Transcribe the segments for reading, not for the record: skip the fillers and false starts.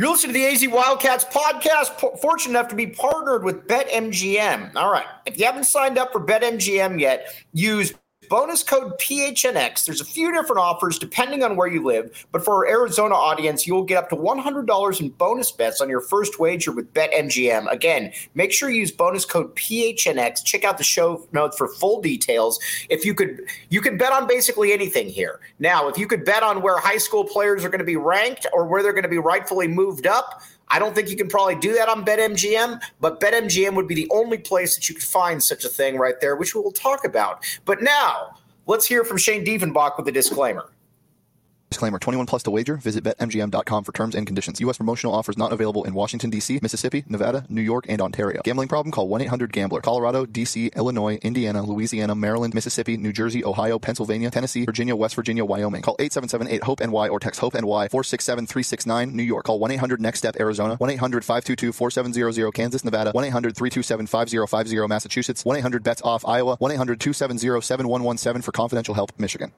You're listening to the AZ Wildcats podcast. Fortunate enough to be partnered with BetMGM. All right. If you haven't signed up for BetMGM yet, use bonus code PHNX. There's a few different offers depending on where you live, but for our Arizona audience, you'll get up to $100 in bonus bets on your first wager with BetMGM. Again, make sure you use bonus code PHNX. Check out the show notes for full details. If you could bet on basically anything here. Now, if you could bet on where high school players are going to be ranked or where they're going to be rightfully moved up, I don't think you can probably do that on BetMGM, but BetMGM would be the only place that you could find such a thing right there, which we will talk about. But now, let's hear from Shane Diefenbach with a disclaimer. Disclaimer, 21 plus to wager. Visit BetMGM.com for terms and conditions. U.S. promotional offers not available in Washington, D.C., Mississippi, Nevada, New York, and Ontario. Gambling problem? Call 1-800-GAMBLER. Colorado, D.C., Illinois, Indiana, Louisiana, Maryland, Mississippi, New Jersey, Ohio, Pennsylvania, Tennessee, Virginia, West Virginia, Wyoming. Call 877-8-HOPE-NY or text HOPE-NY 467-369, New York. Call 1-800-NEXT-STEP, Arizona. 1-800-522-4700, Kansas, Nevada. 1-800-327-5050, Massachusetts. 1-800-BETS-OFF, Iowa. 1-800-270-7117 for confidential help, Michigan.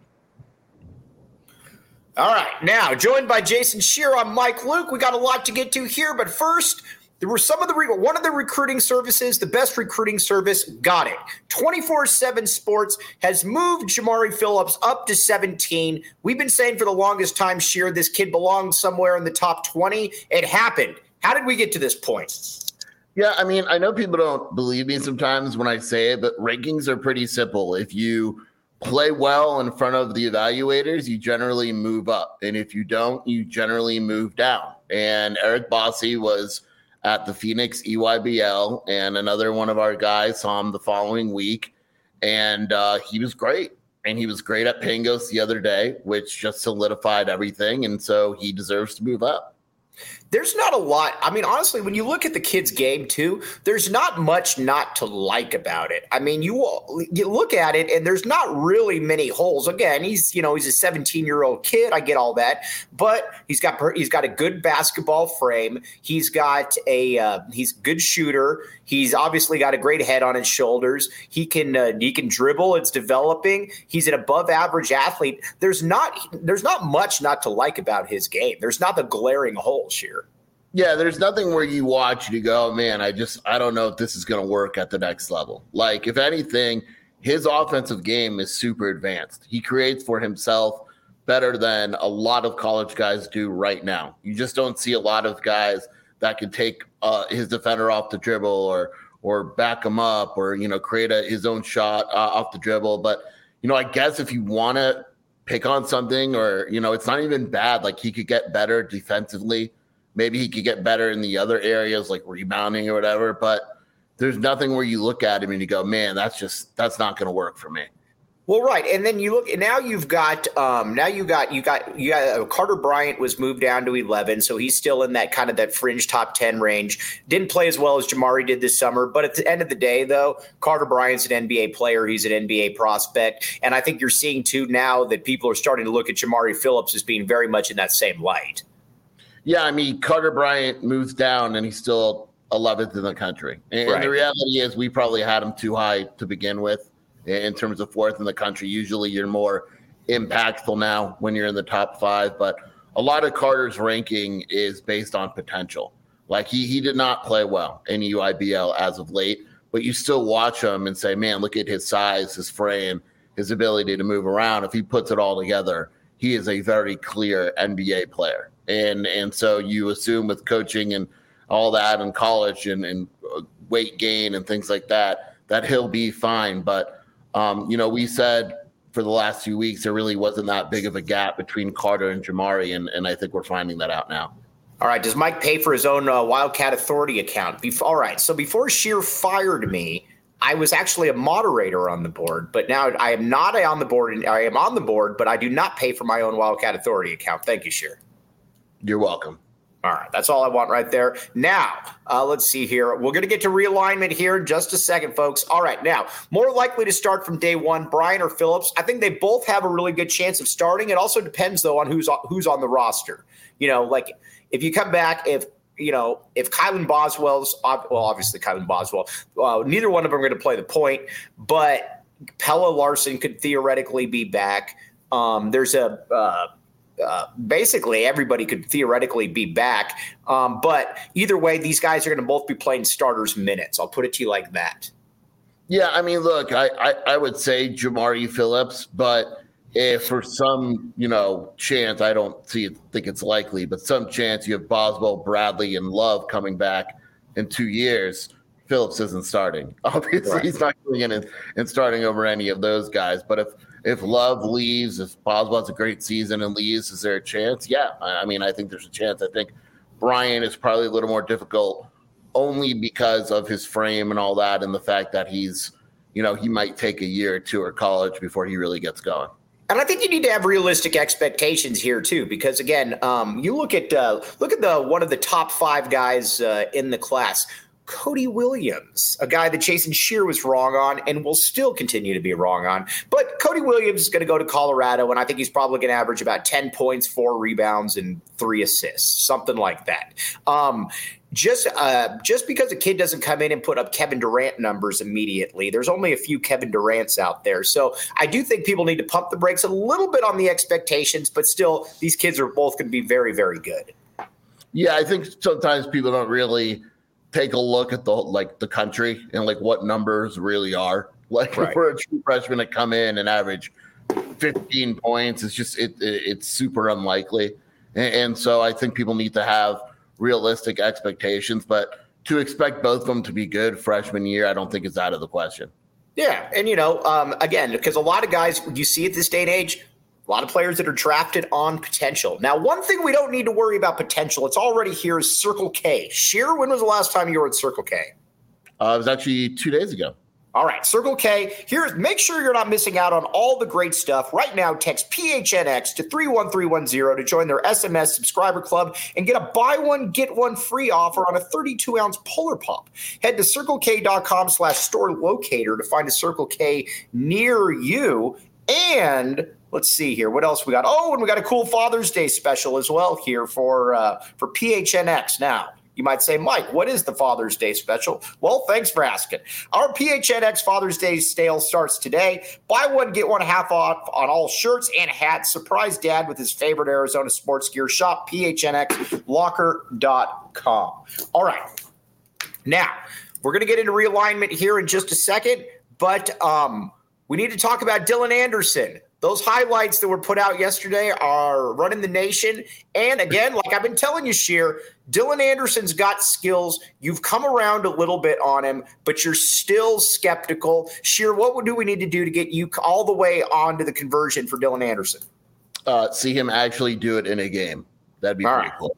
All right, now joined by Jason Scheer, I'm Mike Luke. We got a lot to get to here, but first, there were one of the recruiting services, the best recruiting service, got it. 24/7 Sports has moved Jamari Phillips up to 17. We've been saying for the longest time, Scheer, this kid belongs somewhere in the top 20. It happened. How did we get to this point? Yeah, I mean, I know people don't believe me sometimes when I say it, but rankings are pretty simple. If you play well in front of the evaluators, you generally move up. And if you don't, you generally move down. And Eric Bossi was at the Phoenix EYBL, and another one of our guys saw him the following week. And he was great. And he was great at Pangos the other day, which just solidified everything. And so he deserves to move up. There's not a lot. I mean, honestly, when you look at the kid's game, too, there's not much not to like about it. I mean, you look at it, and there's not really many holes. Again, he's a 17-year-old kid. I get all that. But he's got a good basketball frame. He's got he's a good shooter. He's obviously got a great head on his shoulders. He can dribble. It's developing. He's an above-average athlete. There's not much not to like about his game. There's not the glaring holes here. Yeah, there's nothing where you watch and you go, oh, man, I don't know if this is going to work at the next level. Like, if anything, his offensive game is super advanced. He creates for himself better than a lot of college guys do right now. You just don't see a lot of guys that can take his defender off the dribble or back him up or, create his own shot off the dribble. But, I guess if you want to pick on something or, it's not even bad. Like, he could get better defensively. Maybe he could get better in the other areas like rebounding or whatever, but there's nothing where you look at him and you go, man, that's not going to work for me. Well, right. And then you look, now you got Carter Bryant was moved down to 11. So he's still in that kind of that fringe top 10 range. Didn't play as well as Jamari did this summer. But at the end of the day, though, Carter Bryant's an NBA player. He's an NBA prospect. And I think you're seeing too now that people are starting to look at Jamari Phillips as being very much in that same light. Yeah, I mean, Carter Bryant moves down and he's still 11th in the country. And The reality is we probably had him too high to begin with in terms of 4th in the country. Usually you're more impactful now when you're in the top 5. But a lot of Carter's ranking is based on potential. Like he did not play well in EYBL as of late, but you still watch him and say, man, look at his size, his frame, his ability to move around. If he puts it all together, he is a very clear NBA player. And so you assume with coaching and all that in college and weight gain and things like that he'll be fine. But, we said for the last few weeks, there really wasn't that big of a gap between Carter and Jamari. And I think we're finding that out now. All right. Does Mike pay for his own Wildcat Authority account? All right. So before Scheer fired me, I was actually a moderator on the board, but now I am not on the board. I am on the board, but I do not pay for my own Wildcat Authority account. Thank you, Scheer. You're welcome. All right. That's all I want right there. Now, let's see here. We're going to get to realignment here in just a second, folks. All right. Now, more likely to start from day one, Bryant or Phillips. I think they both have a really good chance of starting. It also depends, though, on who's on the roster. Like if you come back, if Kylan Boswell's – well, obviously Kylan Boswell. Neither one of them are going to play the point, but Pella Larson could theoretically be back. There's a basically everybody could theoretically be back. But either way, these guys are going to both be playing starters minutes. I'll put it to you like that. Yeah, I mean, look, I would say Jamari Phillips, but if for some, chance, I don't think it's likely, but some chance you have Boswell, Bradley, and Love coming back in 2 years, Phillips isn't starting. Obviously, right. He's not going in and starting over any of those guys. But if Love leaves, if Boswell has a great season and leaves, is there a chance? Yeah, I mean, I think there's a chance. I think Brian is probably a little more difficult only because of his frame and all that, and the fact that he's, he might take a year or two at college before he really gets going. And I think you need to have realistic expectations here too, because again, you look at the one of the top 5 guys in the class, Cody Williams, a guy that Jason Scheer was wrong on and will still continue to be wrong on. But Cody Williams is going to go to Colorado, and I think he's probably going to average about 10 points, 4 rebounds, and 3 assists, something like that. Just because a kid doesn't come in and put up Kevin Durant numbers immediately, there's only a few Kevin Durants out there. So I do think people need to pump the brakes a little bit on the expectations, but still, these kids are both going to be very, very good. Yeah, I think sometimes people don't really take a look at the country and what numbers really are. Right. For a true freshman to come in and average 15 points, it's just it's super unlikely. And so I think people need to have realistic expectations, but to expect both of them to be good freshman year, I don't think is out of the question. Yeah. And, again, because a lot of guys you see at this day and age, a lot of players that are drafted on potential. Now, one thing we don't need to worry about potential, it's already here, is Circle K. Scheer, when was the last time you were at Circle K? It was actually 2 days ago. All right, Circle K. Make sure you're not missing out on all the great stuff. Right now, text PHNX to 31310 to join their SMS subscriber club and get a buy one, get one free offer on a 32-ounce Polar Pop. Head to CircleK.com/store locator to find a Circle K near you. And let's see here. What else we got? Oh, and we got a cool Father's Day special as well here for PHNX. Now, you might say, Mike, what is the Father's Day special? Well, thanks for asking. Our PHNX Father's Day sale starts today. Buy one, get one half off on all shirts and hats. Surprise Dad with his favorite Arizona sports gear. Shop PHNXlocker.com. All right. Now, we're going to get into realignment here in just a second, but we need to talk about Dylan Anderson. Those highlights that were put out yesterday are running the nation. And again, like I've been telling you, Scheer, Dylan Anderson's got skills. You've come around a little bit on him, but you're still skeptical. Scheer, what do we need to do to get you all the way onto the conversion for Dylan Anderson? See him actually do it in a game. That'd be pretty cool.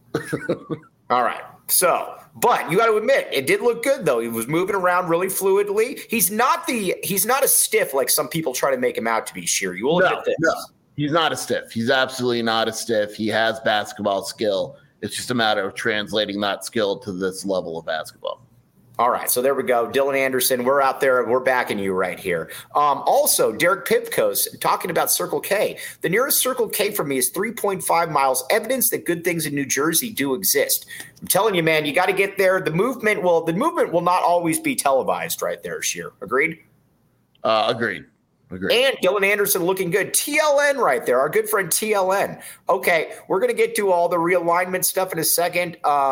All right. So, but you got to admit, it did look good though. He was moving around really fluidly. He's not a stiff like some people try to make him out to be. Scheer, you will admit this. No, he's not a stiff. He's absolutely not a stiff. He has basketball skill. It's just a matter of translating that skill to this level of basketball. All right, so there we go. Dylan Anderson, we're out there. We're backing you right here. Also, Derek Pipkos talking about Circle K. The nearest Circle K for me is 3.5 miles, evidence that good things in New Jersey do exist. I'm telling you, man, you got to get there. The movement will not always be televised right there, Scheer. Agreed? Agreed. And Dylan Anderson looking good. TLN right there, our good friend TLN. Okay, we're going to get to all the realignment stuff in a second.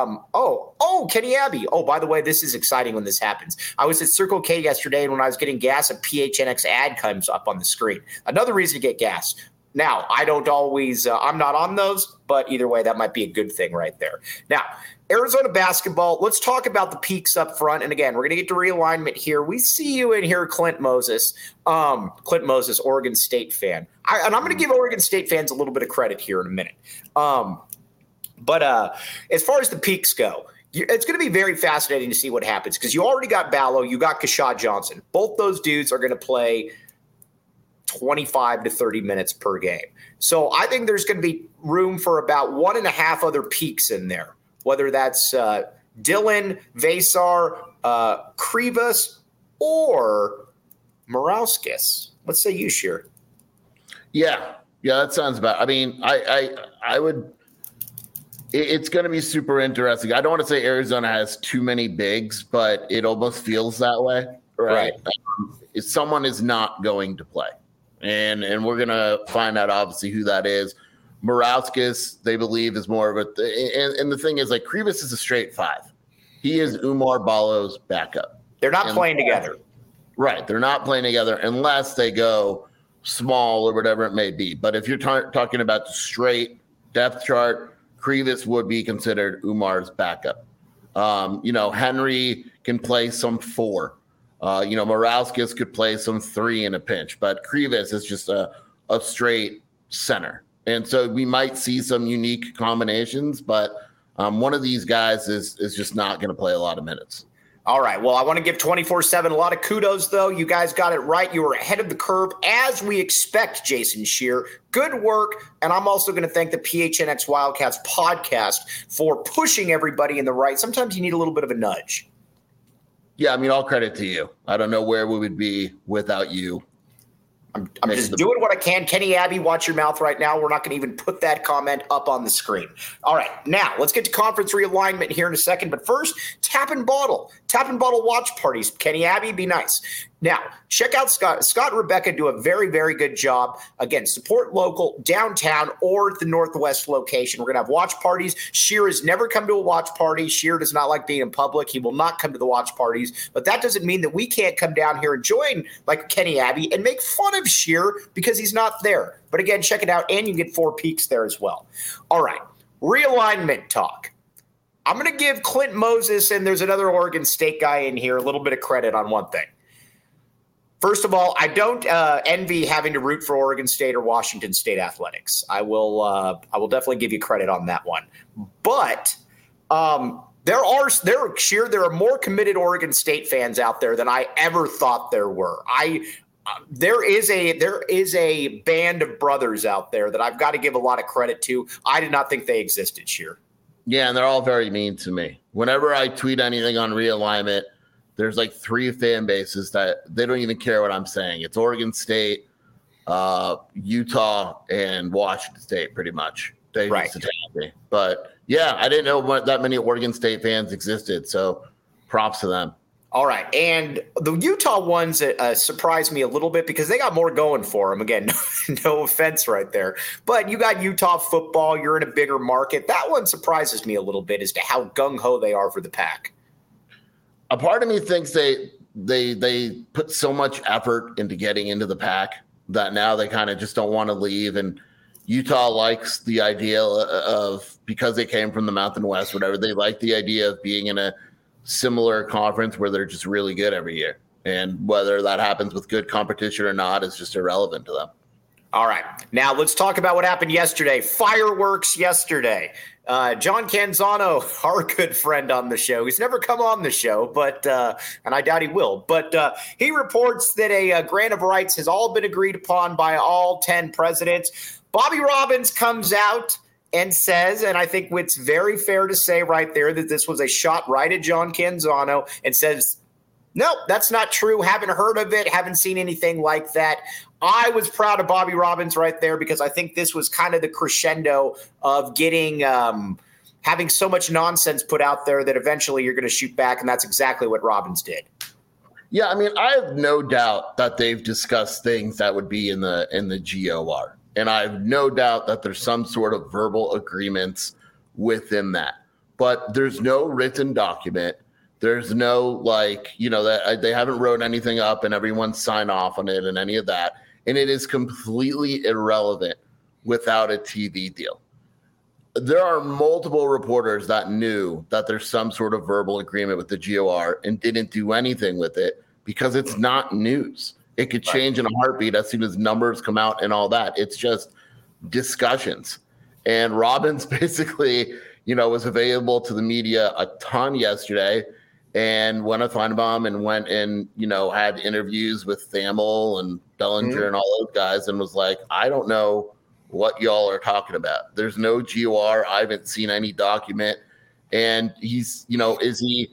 Kenny Abbey. Oh, by the way, this is exciting when this happens. I was at Circle K yesterday, and when I was getting gas, a PHNX ad comes up on the screen. Another reason to get gas. Now, I don't always I'm not on those, but either way, that might be a good thing right there. Now, Arizona basketball, let's talk about the peaks up front. And again, we're going to get to realignment here. We see you in here, Clint Moses, Oregon State fan. And I'm going to give Oregon State fans a little bit of credit here in a minute. But as far as the peaks go, it's going to be very fascinating to see what happens because you already got Ballo, you got Keshad Johnson. Both those dudes are going to play 25 to 30 minutes per game. So I think there's going to be room for about 1.5 other peaks in there, whether that's Dylan, Vesar, Krivas, or Morauskas. What say you, Scheer? Yeah, that sounds about. I mean, I would. It's going to be super interesting. I don't want to say Arizona has too many bigs, but it almost feels that way, right? Someone is not going to play, and we're going to find out obviously who that is. Morauskas, they believe, is more of a and the thing is, like, Krivas is a straight 5. He is Umar Ballo's backup. They're not playing together. Right. They're not playing together unless they go small or whatever it may be. But if you're talking about the straight depth chart, Krivas would be considered Umar's backup. Henry can play some 4. Morauskas could play some 3 in a pinch, but Krivas is just a straight center. And so we might see some unique combinations, but one of these guys is just not going to play a lot of minutes. All right. Well, I want to give 24/7 a lot of kudos, though. You guys got it right. You were ahead of the curve, as we expect, Jason Scheer. Good work. And I'm also going to thank the PHNX Wildcats podcast for pushing everybody in the right. Sometimes you need a little bit of a nudge. Yeah, I mean, all credit to you. I don't know where we would be without you. I'm just doing what I can. Kenny Abbey, watch your mouth right now. We're not going to even put that comment up on the screen. All right, now let's get to conference realignment here in a second. But first, Tap and Bottle watch parties. Kenny Abbey, be nice. Now, check out Scott. Scott and Rebecca do a very, very good job. Again, support local, downtown, or the Northwest location. We're going to have watch parties. Scheer has never come to a watch party. Scheer does not like being in public. He will not come to the watch parties. But that doesn't mean that we can't come down here and join like Kenny Abbey and make fun of Scheer because he's not there. But again, check it out, and you get 4 peaks there as well. All right, realignment talk. I'm going to give Clint Moses, and there's another Oregon State guy in here, a little bit of credit on one thing. First of all, I don't envy having to root for Oregon State or Washington State athletics. I will definitely give you credit on that one. But there are more committed Oregon State fans out there than I ever thought there were. There is a band of brothers out there that I've got to give a lot of credit to. I did not think they existed, Scheer. Yeah, and they're all very mean to me. Whenever I tweet anything on realignment, there's like 3 fan bases that they don't even care what I'm saying. It's Oregon State, Utah, and Washington State, pretty much. They used to attack me. But yeah, I didn't know that many Oregon State fans existed. So props to them. All right. And the Utah ones surprised me a little bit because they got more going for them. Again, no offense right there. But you got Utah football. You're in a bigger market. That one surprises me a little bit as to how gung-ho they are for the Pac. A part of me thinks they put so much effort into getting into the Pac that now they kind of just don't want to leave. And Utah likes the idea of, because they came from the Mountain West, whatever, they like the idea of being in a similar conference where they're just really good every year. And whether that happens with good competition or not is just irrelevant to them. All right. Now let's talk about what happened yesterday. Fireworks yesterday. John Canzano, our good friend on the show. He's never come on the show, but and I doubt he will. But he reports that a grant of rights has all been agreed upon by all 10 presidents. Bobby Robbins comes out and says, and I think it's very fair to say right there that this was a shot right at John Canzano, and says, nope, that's not true. Haven't heard of it. Haven't seen anything like that. I was proud of Bobby Robbins right there because I think this was kind of the crescendo of getting having so much nonsense put out there that eventually you're going to shoot back, and that's exactly what Robbins did. Yeah, I mean, I have no doubt that they've discussed things that would be in the GOR, and I have no doubt that there's some sort of verbal agreements within that. But there's no written document. There's no that they haven't wrote anything up and everyone signed off on it and any of that. And it is completely irrelevant without a TV deal. There are multiple reporters that knew that there's some sort of verbal agreement with the GOR and didn't do anything with it because it's not news. It could change in a heartbeat as soon as numbers come out and all that. It's just discussions. And Robbins basically, was available to the media a ton yesterday, and went on Feinbaum and went and, had interviews with Thamel and Bellinger and all those guys, and was like, I don't know what y'all are talking about. There's no GOR. I haven't seen any document. And he's, is he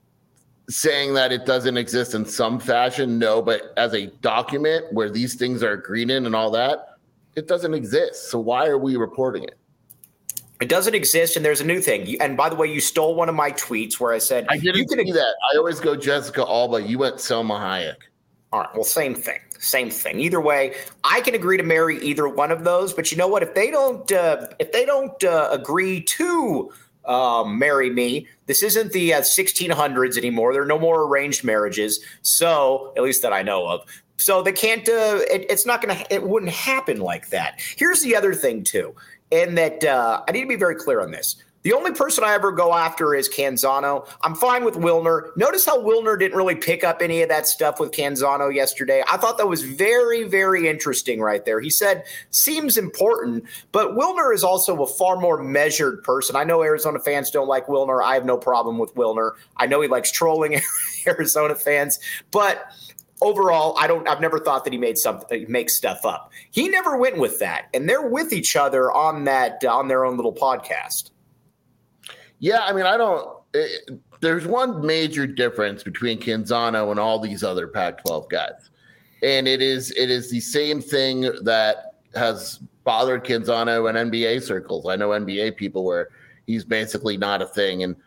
saying that it doesn't exist in some fashion? No, but as a document where these things are agreed in and all that, it doesn't exist. So why are we reporting it? It doesn't exist, and there's a new thing. And by the way, you stole one of my tweets where I said I didn't see that. I always go Jessica Alba. You went Selma Hayek. All right. Well, same thing. Same thing. Either way, I can agree to marry either one of those. But you know what? If they don't agree to marry me, this isn't the 1600s anymore. There are no more arranged marriages. So, at least that I know of. So they can't. It's not going to. It wouldn't happen like that. Here's the other thing too, and that I need to be very clear on this. The only person I ever go after is Canzano. I'm fine with Wilner. Notice how Wilner didn't really pick up any of that stuff with Canzano yesterday. I thought that was very, very interesting right there. He said, seems important, but Wilner is also a far more measured person. I know Arizona fans don't like Wilner. I have no problem with Wilner. I know he likes trolling Arizona fans, but overall, I've never thought that he makes stuff up. He never went with that, and they're with each other on their own little podcast. Yeah, I mean, there's one major difference between Canzano and all these other Pac-12 guys. And it is the same thing that has bothered Canzano in NBA circles. I know NBA people where he's basically not a thing. And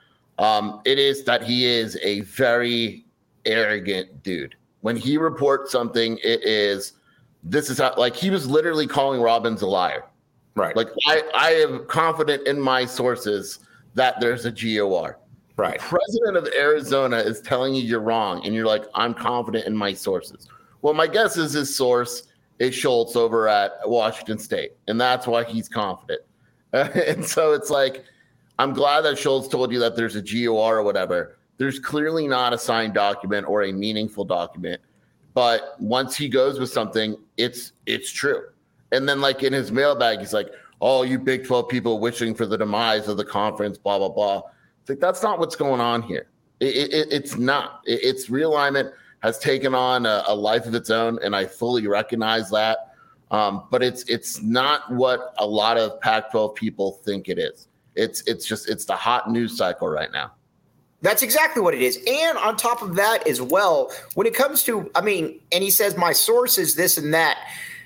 it is that he is a very arrogant dude. When he reports something, this is how, like, he was literally calling Robbins a liar. Right. Like, I am confident in my sources that there's a GOR. Right. The president of Arizona is telling you you're wrong, and you're like, I'm confident in my sources. Well, my guess is his source is Schultz over at Washington State, and that's why he's confident. And so it's like, I'm glad that Schultz told you that there's a GOR or whatever. There's clearly not a signed document or a meaningful document, but once he goes with something, it's true. And then, like, in his mailbag, he's like, oh, you Big 12 people wishing for the demise of the conference, blah, blah, blah. It's like, that's not what's going on here. It's not. It's realignment has taken on a life of its own, and I fully recognize that. But it's not what a lot of Pac-12 people think it is. It's the hot news cycle right now. That's exactly what it is. And on top of that as well, when it comes to, and he says my source is this and that.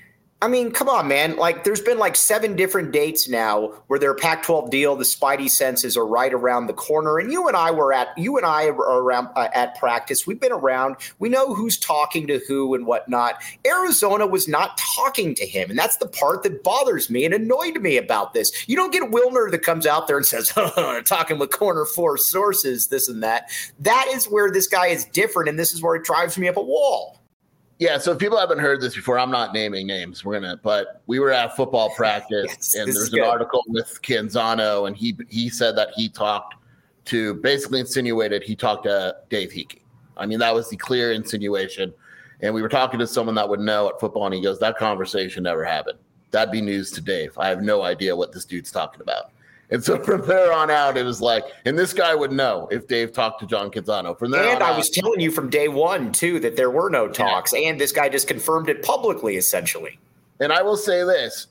I mean, come on, man. Like, there's been like 7 different dates now where their Pac-12 deal, the Spidey senses are right around the corner. And you and I are around at practice. We've been around. We know who's talking to who and whatnot. Arizona was not talking to him. And that's the part that bothers me and annoyed me about this. You don't get Wilner that comes out there and says, talking with corner 4 sources, this and that. That is where this guy is different. And this is where it drives me up a wall. Yeah, so if people haven't heard this before, I'm not naming names. But we were at football practice, and there's an article with Canzano, and he said that he basically insinuated he talked to Dave Hickey. I mean, that was the clear insinuation. And we were talking to someone that would know at football, and he goes, that conversation never happened. That'd be news to Dave. I have no idea what this dude's talking about. And so from there on out, it was like, and this guy would know if Dave talked to John Canzano. From there and I was telling you from day one, too, that there were no talks. Yeah. And this guy just confirmed it publicly, essentially. And I will say this,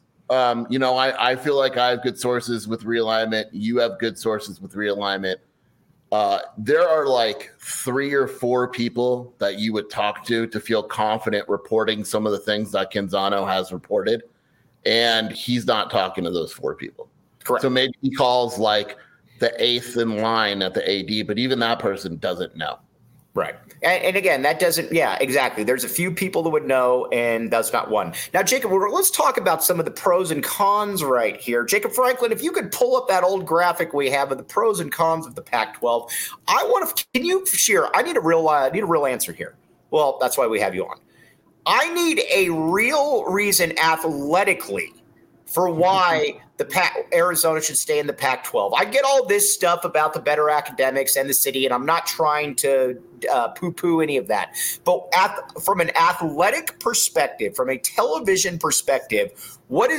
I feel like I have good sources with realignment. You have good sources with realignment. There are like 3 or 4 people that you would talk to feel confident reporting some of the things that Canzano has reported. And he's not talking to those 4 people. Correct. So maybe he calls like the 8th in line at the AD, but even that person doesn't know. Right. And again, that doesn't, yeah, exactly. There's a few people that would know, and that's not one. Now, Jacob, let's talk about some of the pros and cons right here. Jacob Franklin, if you could pull up that old graphic we have of the pros and cons of the Pac-12, can you share, I need a real answer here. Well, that's why we have you on. I need a real reason athletically for why Arizona should stay in the Pac-12. I get all this stuff about the better academics and the city, and I'm not trying to poo-poo any of that. But from an athletic perspective, from a television perspective,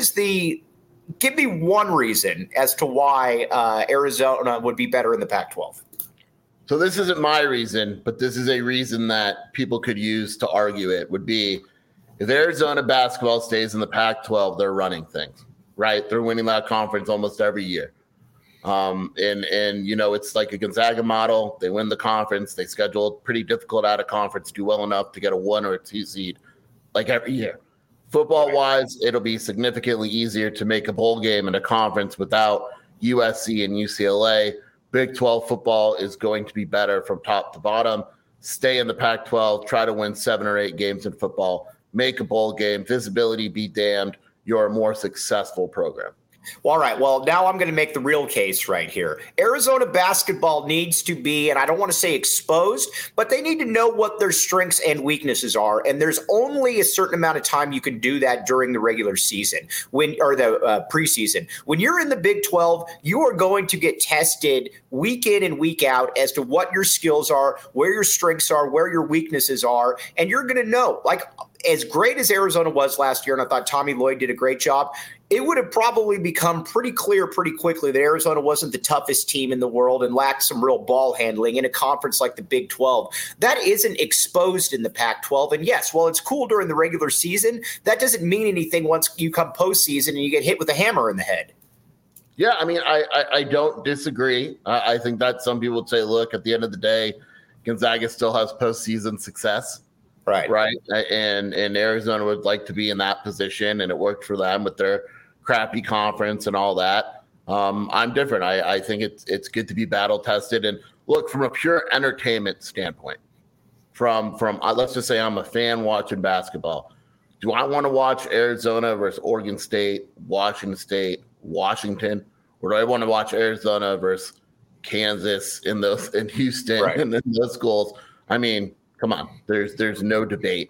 give me one reason as to why Arizona would be better in the Pac-12. So this isn't my reason, but this is a reason that people could use to argue it would be, if Arizona basketball stays in the Pac-12, they're running things, right? They're winning that conference almost every year. It's like a Gonzaga model. They win the conference. They schedule pretty difficult out of conference, do well enough to get a 1 or a 2 seed like every year. Football-wise, it'll be significantly easier to make a bowl game in a conference without USC and UCLA. Big 12 football is going to be better from top to bottom. stay in the Pac-12, try to win 7 or 8 games in football, make a bowl game, visibility be damned, you're a more successful program. Well, all right. Well, now I'm going to make the real case right here. Arizona basketball needs to be, and I don't want to say exposed, but they need to know what their strengths and weaknesses are. And there's only a certain amount of time you can do that during the regular season or the preseason. When you're in the Big 12, you are going to get tested week in and week out as to what your skills are, where your strengths are, where your weaknesses are. And you're going to know, like, as great as Arizona was last year, and I thought Tommy Lloyd did a great job, it would have probably become pretty clear pretty quickly that Arizona wasn't the toughest team in the world and lacked some real ball handling in a conference like the Big 12. That isn't exposed in the Pac-12. And yes, while it's cool during the regular season, that doesn't mean anything once you come postseason and you get hit with a hammer in the head. Yeah, I mean, I don't disagree. I think that some people would say, look, at the end of the day, Gonzaga still has postseason success. Right. And Arizona would like to be in that position, and it worked for them with their crappy conference and all that. I'm different. I think it's good to be battle tested. And look, from a pure entertainment standpoint, from let's just say I'm a fan watching basketball. Do I want to watch Arizona versus Oregon State, Washington State, Washington, or do I want to watch Arizona versus Kansas in Houston and in those schools? I mean, come on, there's no debate.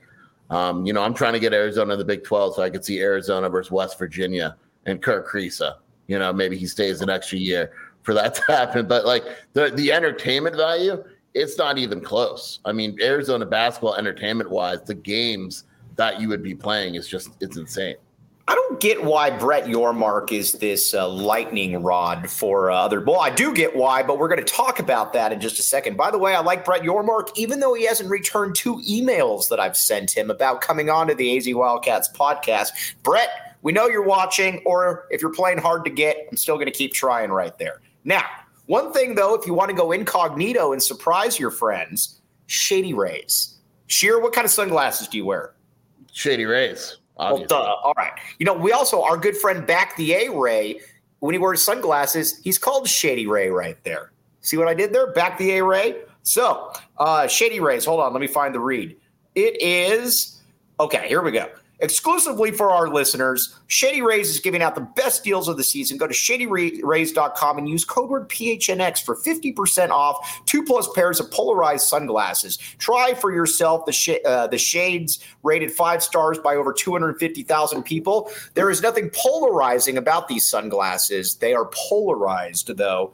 I'm trying to get Arizona in the Big 12 so I could see Arizona versus West Virginia and Kirk Kriisa. Maybe he stays an extra year for that to happen. But like the entertainment value, it's not even close. I mean, Arizona basketball entertainment wise, the games that you would be playing it's insane. I don't get why Brett Yormark is this lightning rod for other. Well, I do get why, but we're going to talk about that in just a second. By the way, I like Brett Yormark, even though he hasn't returned 2 emails that I've sent him about coming on to the AZ Wildcats podcast. Brett, we know you're watching, or if you're playing hard to get, I'm still going to keep trying right there. Now, one thing, though, if you want to go incognito and surprise your friends, Shady Rays. Sheer, what kind of sunglasses do you wear? Shady Rays. Well, duh. All right. We also, our good friend Back the A-Ray, when he wears sunglasses, he's called Shady Ray right there. See what I did there? Back the A-Ray. So, Shady Rays, hold on. Let me find the read. It is, okay, here we go. Exclusively for our listeners, Shady Rays is giving out the best deals of the season. Go to shadyrays.com and use code word PHNX for 50% off 2+ pairs of polarized sunglasses. Try for yourself the shades rated 5 stars by over 250,000 people. There is nothing polarizing about these sunglasses. They are polarized, though.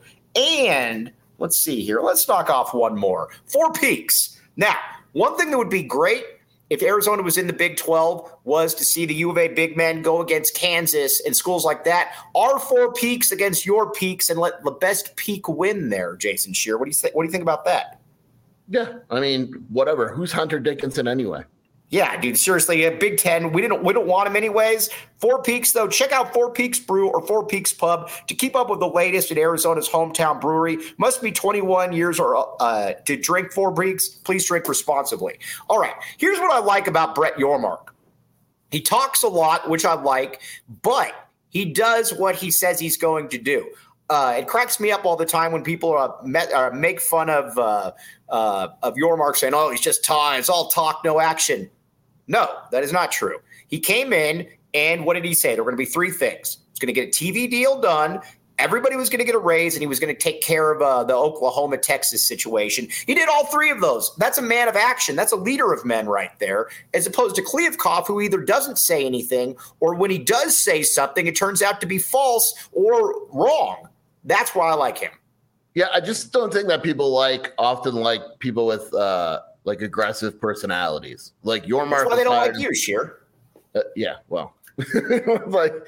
And let's see here. Let's knock off one more. 4 Peaks. Now, one thing that would be great if Arizona was in the Big 12 was to see the U of A big men go against Kansas and schools like that. Our 4 Peaks against your Peaks and let the best peak win there, Jason Shear. What do you think about that? Yeah, I mean, whatever. Who's Hunter Dickinson anyway? Yeah, dude, seriously, Big Ten, we don't want him anyways. 4 Peaks, though. Check out 4 Peaks Brew or 4 Peaks Pub to keep up with the latest at Arizona's hometown brewery. Must be 21 years or to drink 4 Peaks. Please drink responsibly. All right, here's what I like about Brett Yormark. He talks a lot, which I like, but he does what he says he's going to do. It cracks me up all the time when people make fun of Yormark saying, "Oh, he's just talking. It's all talk, no action." No, that is not true. He came in, and what did he say? There were going to be 3 things. He's going to get a TV deal done. Everybody was going to get a raise, and he was going to take care of the Oklahoma-Texas situation. He did all 3 of those. That's a man of action. That's a leader of men right there, as opposed to Kliavkoff, who either doesn't say anything, or when he does say something, it turns out to be false or wrong. That's why I like him. Yeah, I just don't think that people often like people with aggressive personalities. Like Yormark. That's why they don't like you, Sheer. Yeah, well, it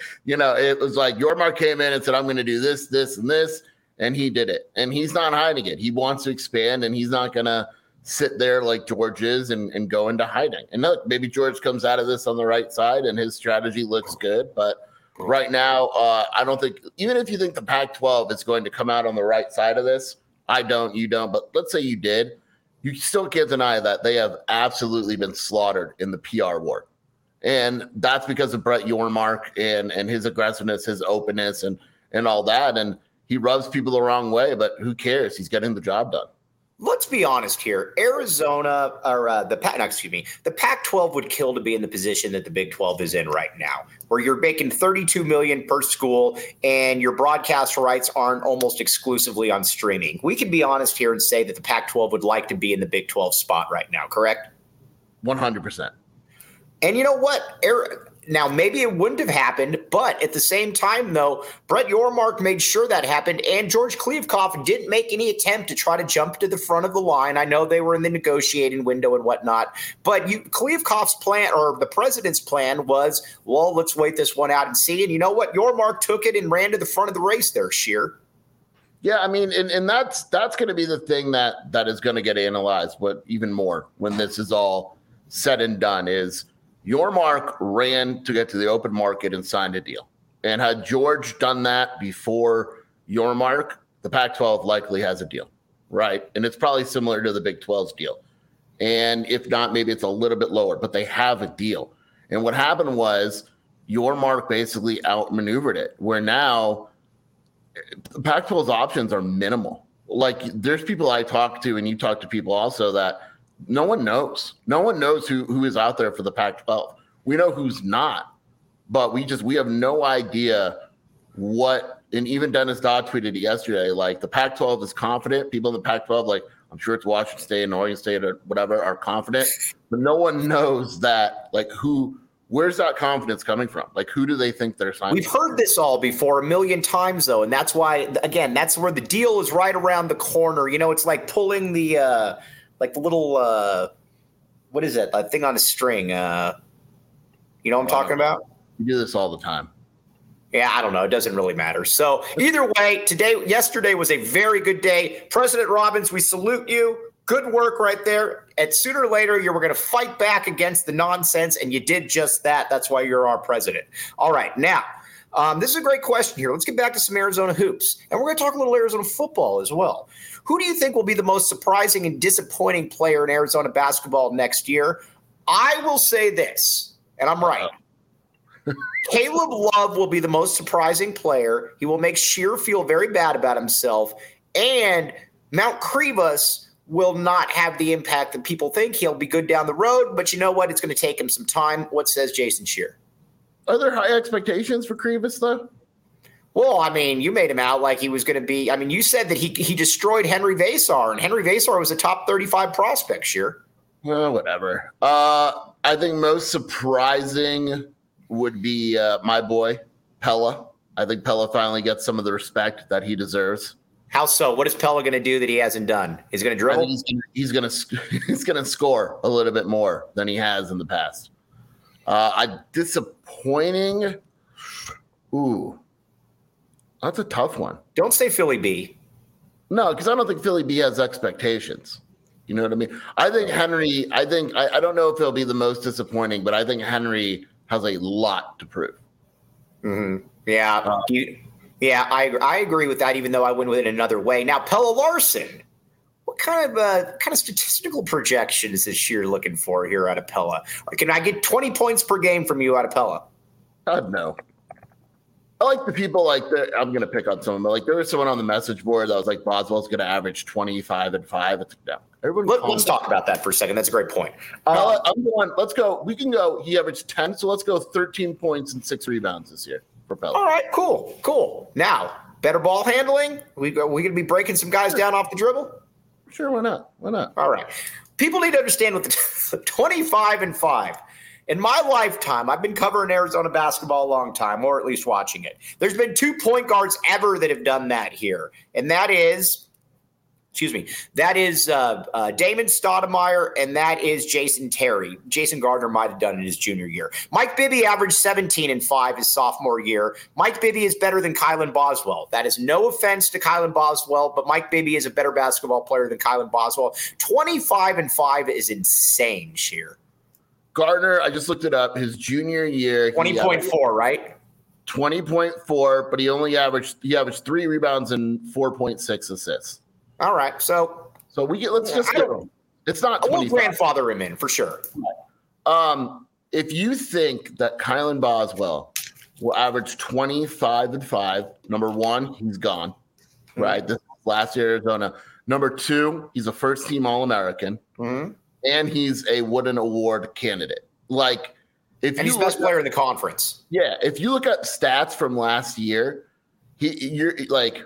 was like Yormark came in and said, "I'm going to do this, this, and this," and he did it. And he's not hiding it. He wants to expand, and he's not going to sit there like George is and go into hiding. And look, maybe George comes out of this on the right side, and his strategy looks good, but right now, I don't think, even if you think the Pac-12 is going to come out on the right side of this, I don't, you don't, but let's say you did, you still can't deny that they have absolutely been slaughtered in the PR war. And that's because of Brett Yormark and his aggressiveness, his openness, and all that. And he rubs people the wrong way, but who cares? He's getting the job done. Let's be honest here. Arizona or the Pac-12 would kill to be in the position that the Big 12 is in right now, where you're making $32 million per school and your broadcast rights aren't almost exclusively on streaming. We can be honest here and say that the Pac-12 would like to be in the Big 12 spot right now, correct? 100%. And you know what? Now, maybe it wouldn't have happened, but at the same time, though, Brett Yormark made sure that happened, and George Kliavkoff didn't make any attempt to try to jump to the front of the line. I know they were in the negotiating window and whatnot, but Kliavkoff's plan, or the president's plan, was, well, let's wait this one out and see. And you know what? Yormark took it and ran to the front of the race there, Scheer. Yeah, I mean, and that's going to be the thing that is going to get analyzed, but even more when this is all said and done is Yormark ran to get to the open market and signed a deal. And had George done that before Yormark, the Pac-12 likely has a deal, right? And it's probably similar to the Big 12's deal. And if not, maybe it's a little bit lower, but they have a deal. And what happened was Yormark basically outmaneuvered it, where now the Pac-12's options are minimal. Like, there's people I talk to, and you talk to people also, that no one knows. No one knows who is out there for the Pac-12. We know who's not, but we have no idea what. And even Dennis Dodd tweeted it yesterday, like, the Pac-12 is confident. People in the Pac-12, like, I'm sure it's Washington State and Oregon State or whatever, are confident, but no one knows that, like, where's that confidence coming from? Like, who do they think they're signing? We've heard this all before a million times, though, and that's why, again, that's where the deal is right around the corner. You know, it's like pulling the like the little what is that? That thing on a string. You know what I'm talking about? You do this all the time. Yeah, I don't know. It doesn't really matter. So either way, yesterday was a very good day. President Robbins, we salute you. Good work right there. And sooner or later, you were going to fight back against the nonsense, and you did just that. That's why you're our president. All right, now, this is a great question here. Let's get back to some Arizona hoops. And we're going to talk a little Arizona football as well. Who do you think will be the most surprising and disappointing player in Arizona basketball next year? I will say this, and I'm right. Caleb Love will be the most surprising player. He will make Scheer feel very bad about himself. And Mount Krivas will not have the impact that people think. He'll be good down the road, but you know what? It's going to take him some time. What says Jason Scheer? Are there high expectations for Krivas, though? Well, I mean, you made him out like he was going to be – I mean, you said that he destroyed Henry Vasar, and Henry Vasar was a top 35 prospect, Scheer. Well, whatever. I think most surprising would be my boy, Pella. I think Pella finally gets some of the respect that he deserves. How so? What is Pella going to do that he hasn't done? He's going to dribble? He's going to score a little bit more than he has in the past. Disappointing. Ooh, that's a tough one. Don't say Philly B. No, because I don't think Philly B has expectations. You know what I mean? I think Henry. I don't know if he'll be the most disappointing, but I think Henry has a lot to prove. Mm-hmm. Yeah. Yeah, I agree with that, even though I went with it another way. Now, Pella Larson, what kind of statistical projections is Scheer looking for here out of Pella? Or can I get 20 points per game from you out of Pella? God, no. I like the people I'm going to pick on someone, but there was someone on the message board that was like, Boswell's going to average 25 and 5. It's no. Let's talk about that for a second. That's a great point. Let's go. We can go. He averaged 10, so let's go 13 points and 6 rebounds this year. All right, cool. Now, better ball handling. We going to be breaking some guys down off the dribble? Sure, why not? All right. People need to understand what the 25 and 5. In my lifetime, I've been covering Arizona basketball a long time, or at least watching it. There's been 2 point guards ever that have done that here, and that is Damon Stoudemire, and that is Jason Terry. Jason Gardner might have done it in his junior year. Mike Bibby averaged 17 and 5 his sophomore year. Mike Bibby is better than Kylan Boswell. That is no offense to Kylan Boswell, but Mike Bibby is a better basketball player than Kylan Boswell. 25 and 5 is insane, Scheer. Gardner, I just looked it up. His junior year, 20.4, right? 20.4, but he averaged 3 rebounds and 4.6 assists. All right, so let's just go. It's not 25. I will grandfather him in for sure. If you think that Kylan Boswell will average 25 and 5, number one, he's gone. Right, this last year Arizona. Number 2, he's a first-team All-American, and he's a Wooden Award candidate. Like, and he's the best player in the conference. Yeah, if you look at stats from last year, you're like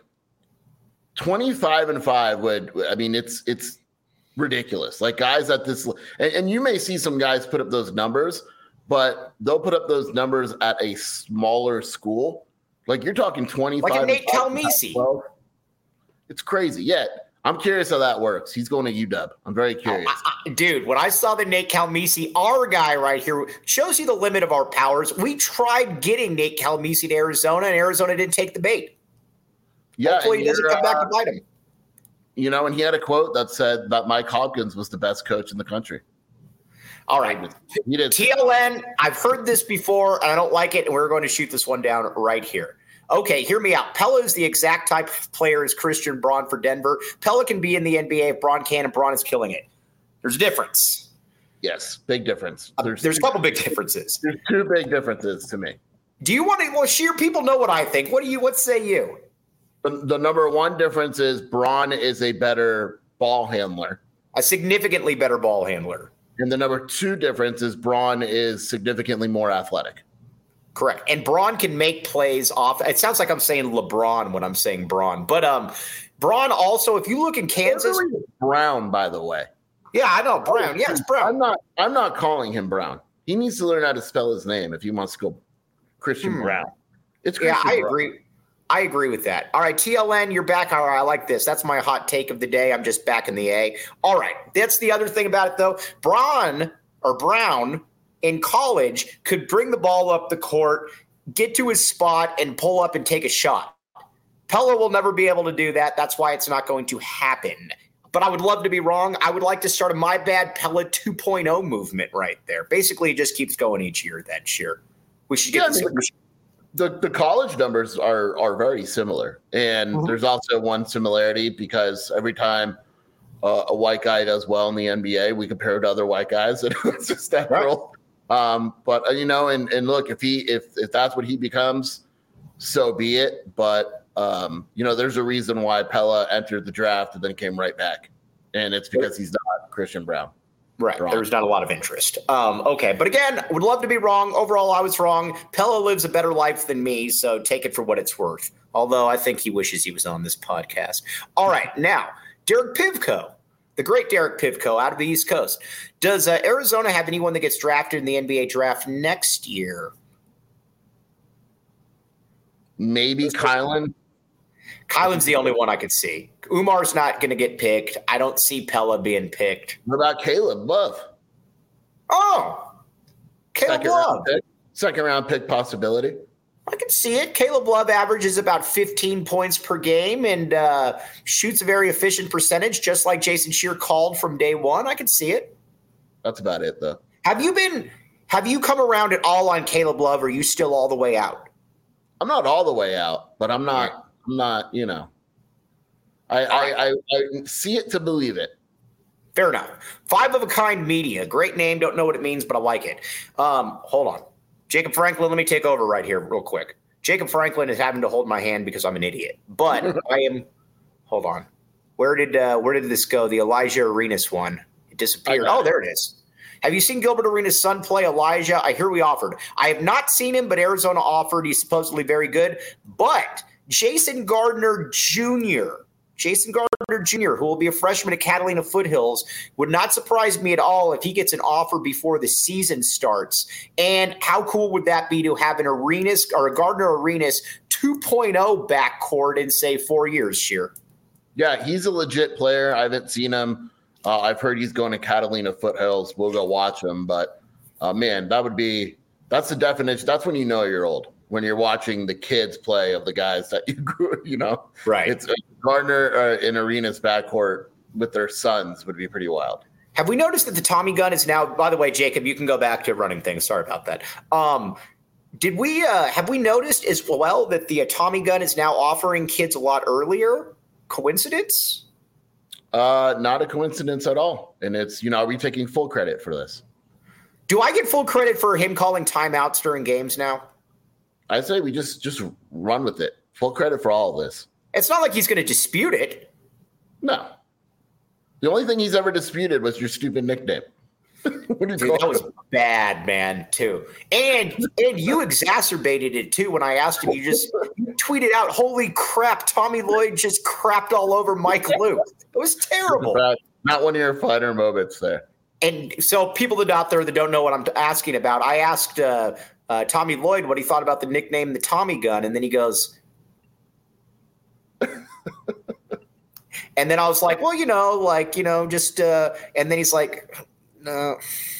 25-5 would. I mean, it's ridiculous. Like guys at this, and you may see some guys put up those numbers, but they'll put up those numbers at a smaller school. Like you're talking 25. Like a Nate Calmisi. It's crazy. Yeah. I'm curious how that works. He's going to UW. I'm very curious. Dude, when I saw the Nate Calmisi, our guy right here, shows you the limit of our powers. We tried getting Nate Calmisi to Arizona, and Arizona didn't take the bait. Yeah, hopefully he doesn't come back to bite him. You know, and he had a quote that said that Mike Hopkins was the best coach in the country. All right. He did. TLN, I've heard this before, and I don't like it, and we're going to shoot this one down right here. Okay, hear me out. Pelle is the exact type of player as Christian Braun for Denver. Pelle can be in the NBA if Braun can, and Braun is killing it. There's a difference. Yes, big difference. There's a couple big differences. There's 2 big differences to me. Do you want to? Well, Sheer, people know what I think. What say you? The number 1 difference is Braun is a better ball handler. A significantly better ball handler. And the number 2 difference is Braun is significantly more athletic. Correct. And Braun can make plays off. It sounds like I'm saying LeBron when I'm saying Braun. But Braun also, if you look in Kansas. Brown, by the way. Yeah, I know. Brown. Yeah, it's Brown. I'm not calling him Brown. He needs to learn how to spell his name if he wants to go Christian Brown. It's Christian I Brown. agree. I agree with that. All right, TLN, you're back. All right, I like this. That's my hot take of the day. I'm just back in the A. All right, that's the other thing about it, though. Brown in college could bring the ball up the court, get to his spot, and pull up and take a shot. Pelle will never be able to do that. That's why it's not going to happen. But I would love to be wrong. I would like to start a My Bad Pelle 2.0 movement right there. Basically, it just keeps going each year that year. We should get the college numbers are very similar. And there's also one similarity because every time a white guy does well in the NBA, we compare it to other white guys. And it's just that rule. But you know, and look, if that's what he becomes, so be it. But you know, there's a reason why Pelle entered the draft and then came right back, and it's because he's not Christian Braun. Right. There's not a lot of interest. Okay. But again, would love to be wrong. Overall, I was wrong. Pelle lives a better life than me, so take it for what it's worth. Although I think he wishes he was on this podcast. All right. Now, Derek Pivko. The great Derek Pivko out of the East Coast. Does Arizona have anyone that gets drafted in the NBA draft next year? Maybe Kylan. Kylan's the only one I could see. Umar's not going to get picked. I don't see Pelle being picked. What about Caleb Love? Oh, Caleb Love. Second round pick possibility. I can see it. Caleb Love averages about 15 points per game and shoots a very efficient percentage, just like Jason Scheer called from day one. I can see it. That's about it, though. Have you come around at all on Caleb Love, or are you still all the way out? I'm not all the way out, but I'm not, you know. I see it to believe it. Fair enough. 5 of a Kind Media. Great name. Don't know what it means, but I like it. Hold on. Jacob Franklin, let me take over right here real quick. Jacob Franklin is having to hold my hand because I'm an idiot. But I am – hold on. Where did this go? The Elijah Arenas one. It disappeared. Oh, there it is. Have you seen Gilbert Arenas' son play Elijah? I hear we offered. I have not seen him, but Arizona offered. He's supposedly very good. But Jason Gardner Jr., who will be a freshman at Catalina Foothills, would not surprise me at all if he gets an offer before the season starts. And how cool would that be to have an Arenas or a Gardner Arenas 2.0 backcourt in, say, 4 years, Sheer? Yeah, he's a legit player. I haven't seen him. I've heard he's going to Catalina Foothills. We'll go watch him. But, man, that's the definition. That's when you know you're old, when you're watching the kids play of the guys that you grew, you know. Right. It's Gardner in Arenas backcourt with their sons would be pretty wild. Have we noticed that the Tommy gun is now, by the way, Jacob, you can go back to running things. Sorry about that. Have we noticed as well that the Tommy gun is now offering kids a lot earlier? Coincidence? Not a coincidence at all. And it's, you know, are we taking full credit for this? Do I get full credit for him calling timeouts during games now? I say we just run with it. Full credit for all of this. It's not like he's going to dispute it. No. The only thing he's ever disputed was your stupid nickname. Dude, that was bad, man, too. And you exacerbated it, too, when I asked him. You tweeted out, holy crap, Tommy Lloyd just crapped all over Mike Luke. It was terrible. Not one of your finer moments there. And so people that out there that don't know what I'm asking about, I asked Tommy Lloyd what he thought about the nickname the Tommy Gun, and then he goes – and then I was like, well, just and then he's like – No.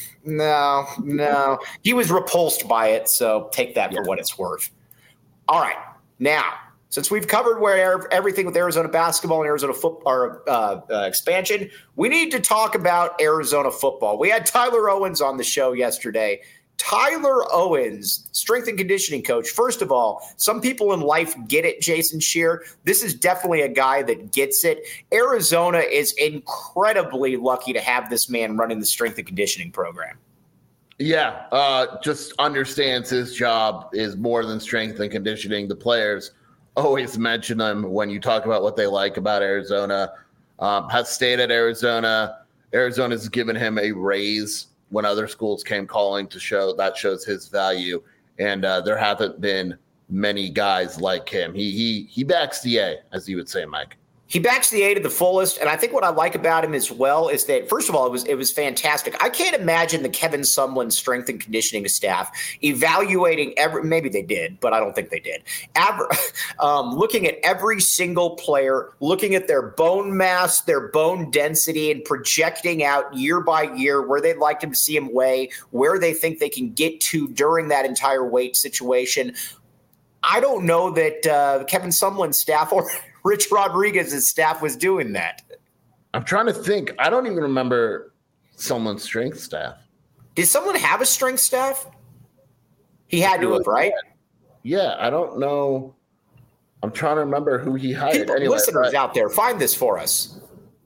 He was repulsed by it, so take that for what it's worth. All right. Now, since we've covered everything with Arizona basketball and Arizona football expansion, we need to talk about Arizona football. We had Tyler Owens on the show yesterday. Tyler Owens, strength and conditioning coach. First of all, some people in life get it, Jason Scheer. This is definitely a guy that gets it. Arizona is incredibly lucky to have this man running the strength and conditioning program. Yeah, just understands his job is more than strength and conditioning. The players always mention him when you talk about what they like about Arizona. Has stayed at Arizona. Arizona's given him a raise when other schools came calling to shows his value. And there haven't been many guys like him. He backs the A, as you would say, Mike. He backs the A to the fullest, and I think what I like about him as well is that, first of all, it was fantastic. I can't imagine the Kevin Sumlin strength and conditioning staff evaluating maybe they did, but I don't think they did. Looking at every single player, looking at their bone mass, their bone density, and projecting out year by year where they'd like to see him weigh, where they think they can get to during that entire weight situation. I don't know that Kevin Sumlin's staff or Rich Rodriguez's staff was doing that. I'm trying to think. I don't even remember someone's strength staff. Did someone have a strength staff? He had to have, right? Yeah, I don't know. I'm trying to remember who he hired. Listeners out there, find this for us.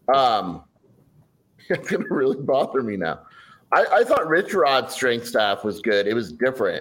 It's going to really bother me now. I thought Rich Rod's strength staff was good. It was different.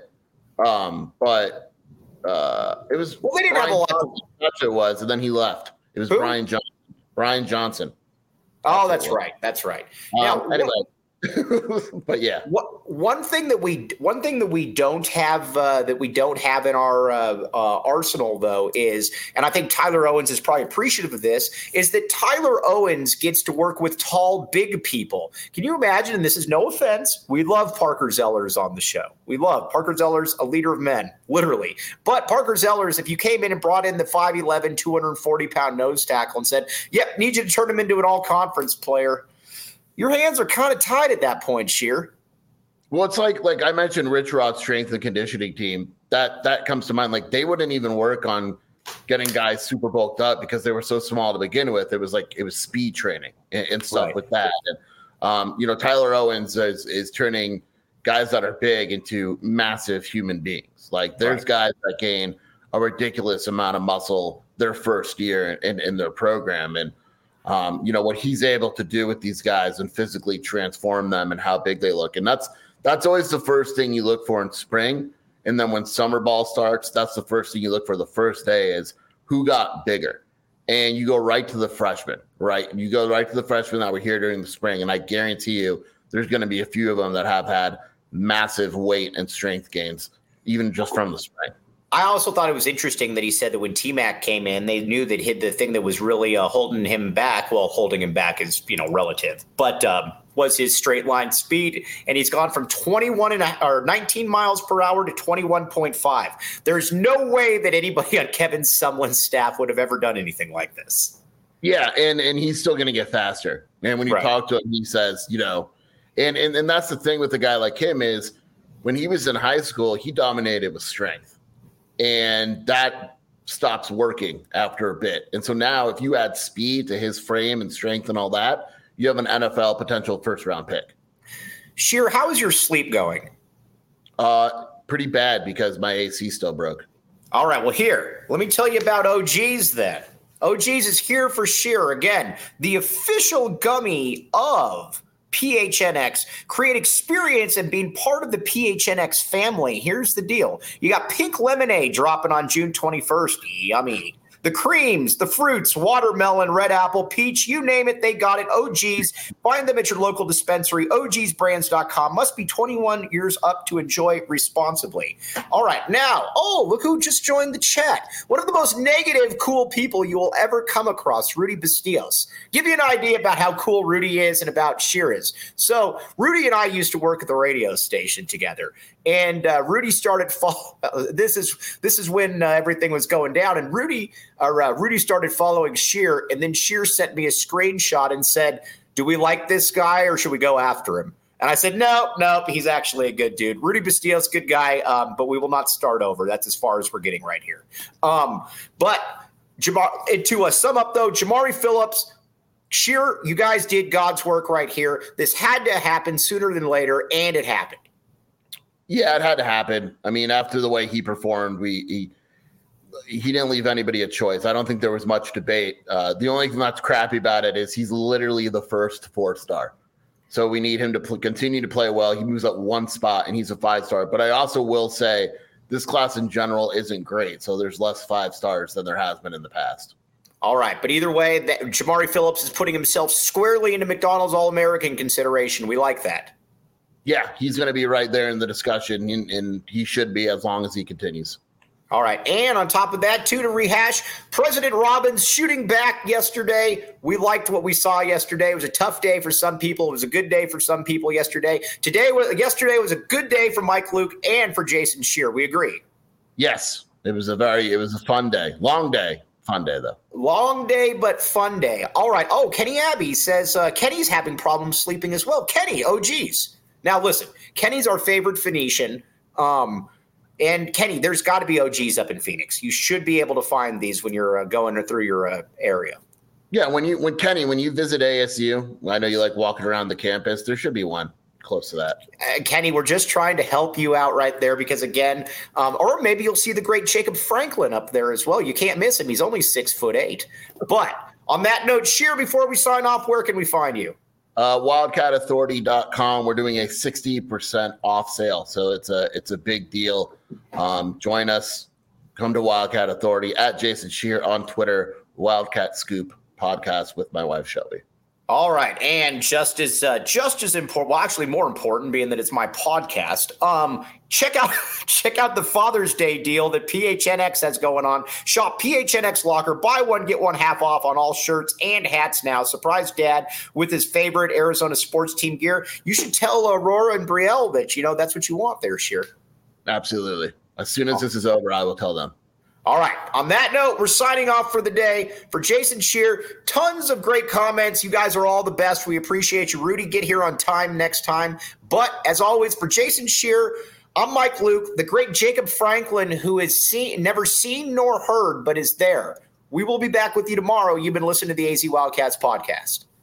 But it was they didn't have a lot. It was, and then he left. It was Brian Johnson. Brian Johnson. Oh, that's right. That's right. Now, anyway, but yeah, one thing that we don't have in our arsenal though is, and I think Tyler Owens is probably appreciative of this, is that Tyler Owens gets to work with tall, big people. Can you imagine? And this is no offense. We love Parker Zellers on the show. We love Parker Zellers, a leader of men, literally. But Parker Zellers, if you came in and brought in the 5'11", 240-pound nose tackle and said, "Yep, need you to turn him into an all-conference player," your hands are kind of tied at that point, Scheer. Well, it's like I mentioned Rich Rod's strength and conditioning team. That comes to mind. Like, they wouldn't even work on getting guys super bulked up because they were so small to begin with. It was speed training and stuff with that. And, Tyler Owens is turning guys that are big into massive human beings. Like, there's guys that gain a ridiculous amount of muscle their first year in their program. And, what he's able to do with these guys and physically transform them and how big they look. And that's always the first thing you look for in spring. And then when summer ball starts, that's the first thing you look for the first day is who got bigger. And you go right to the freshmen, right? You go right to the freshmen that were here during the spring. And I guarantee you there's going to be a few of them that have had massive weight and strength gains, even just from the spring. I also thought it was interesting that he said that when T-Mac came in, they knew that the thing that was really holding him back, well, holding him back is, relative, but was his straight line speed. And he's gone from 19 miles per hour to 21.5. There's no way that anybody on Kevin Sumlin's staff would have ever done anything like this. Yeah, and he's still going to get faster. And when you talk to him, he says, and that's the thing with a guy like him is when he was in high school, he dominated with strength. And that stops working after a bit. And so now if you add speed to his frame and strength and all that, you have an NFL potential first-round pick. Scheer, how is your sleep going? Pretty bad because my AC still broke. All right, well, here, let me tell you about OGs then. OGs is here for Scheer. Again, the official gummy of PHNX. Create experience and being part of the PHNX family. Here's the deal. You got Pink Lemonade dropping on June 21st. Yummy. The creams, the fruits, watermelon, red apple, peach, you name it, they got it. OG's. Find them at your local dispensary. OGsbrands.com. Must be 21 years up to enjoy responsibly. All right, now, look who just joined the chat. One of the most negative, cool people you will ever come across, Rudy Bastillos. Give you an idea about how cool Rudy is and about Scheer is. So Rudy and I used to work at the radio station together, and Rudy started this is when everything was going down, and Rudy started following Scheer, and then Scheer sent me a screenshot and said, do we like this guy or should we go after him? And I said, no, he's actually a good dude. Rudy Bastillos, good guy, but we will not start over. That's as far as we're getting right here. But to sum up, though, Jamari Phillips, Scheer, you guys did God's work right here. This had to happen sooner than later, and it happened. Yeah, it had to happen. I mean, after the way he performed, he didn't leave anybody a choice. I don't think there was much debate. The only thing that's crappy about it is he's literally the first 4-star. So we need him to continue to play well. He moves up one spot, and he's a 5-star. But I also will say this class in general isn't great. So there's less 5-stars than there has been in the past. All right. But either way, Jamari Phillips is putting himself squarely into McDonald's All-American consideration. We like that. Yeah, he's going to be right there in the discussion, and he should be as long as he continues. All right. And on top of that, too, to rehash, President Robbins shooting back yesterday. We liked what we saw yesterday. It was a tough day for some people. It was a good day for some people yesterday. Yesterday was a good day for Mike Luke and for Jason Scheer. We agree. Yes. It was a fun day. Long day. Fun day, though. Long day, but fun day. All right. Oh, Kenny Abbey says Kenny's having problems sleeping as well. Kenny, geez. Now, listen, Kenny's our favorite Phoenician. And Kenny, there's got to be OGs up in Phoenix. You should be able to find these when you're going through your area. Yeah, when you visit ASU, I know you like walking around the campus. There should be one close to that. Kenny, we're just trying to help you out right there because, again, or maybe you'll see the great Jacob Franklin up there as well. You can't miss him. He's only 6'8". But on that note, Scheer, before we sign off, where can we find you? WildcatAuthority.com. We're doing a 60% off sale, so it's a big deal. Join us. Come to Wildcat Authority at Jason Scheer on Twitter. Wildcat Scoop podcast with my wife Shelby. All right, and just as important, well, actually more important, being that it's my podcast. Check out the Father's Day deal that PHNX has going on. Shop PHNX Locker, buy one get one half off on all shirts and hats now. Surprise Dad with his favorite Arizona sports team gear. You should tell Aurora and Brielle that that's what you want there, Scheer. Absolutely. As soon as this is over, I will tell them. All right. On that note, we're signing off for the day. For Jason Scheer, tons of great comments. You guys are all the best. We appreciate you. Rudy, get here on time next time. But as always, for Jason Scheer, I'm Mike Luke, the great Jacob Franklin, who is never seen nor heard, but is there. We will be back with you tomorrow. You've been listening to the AZ Wildcats podcast.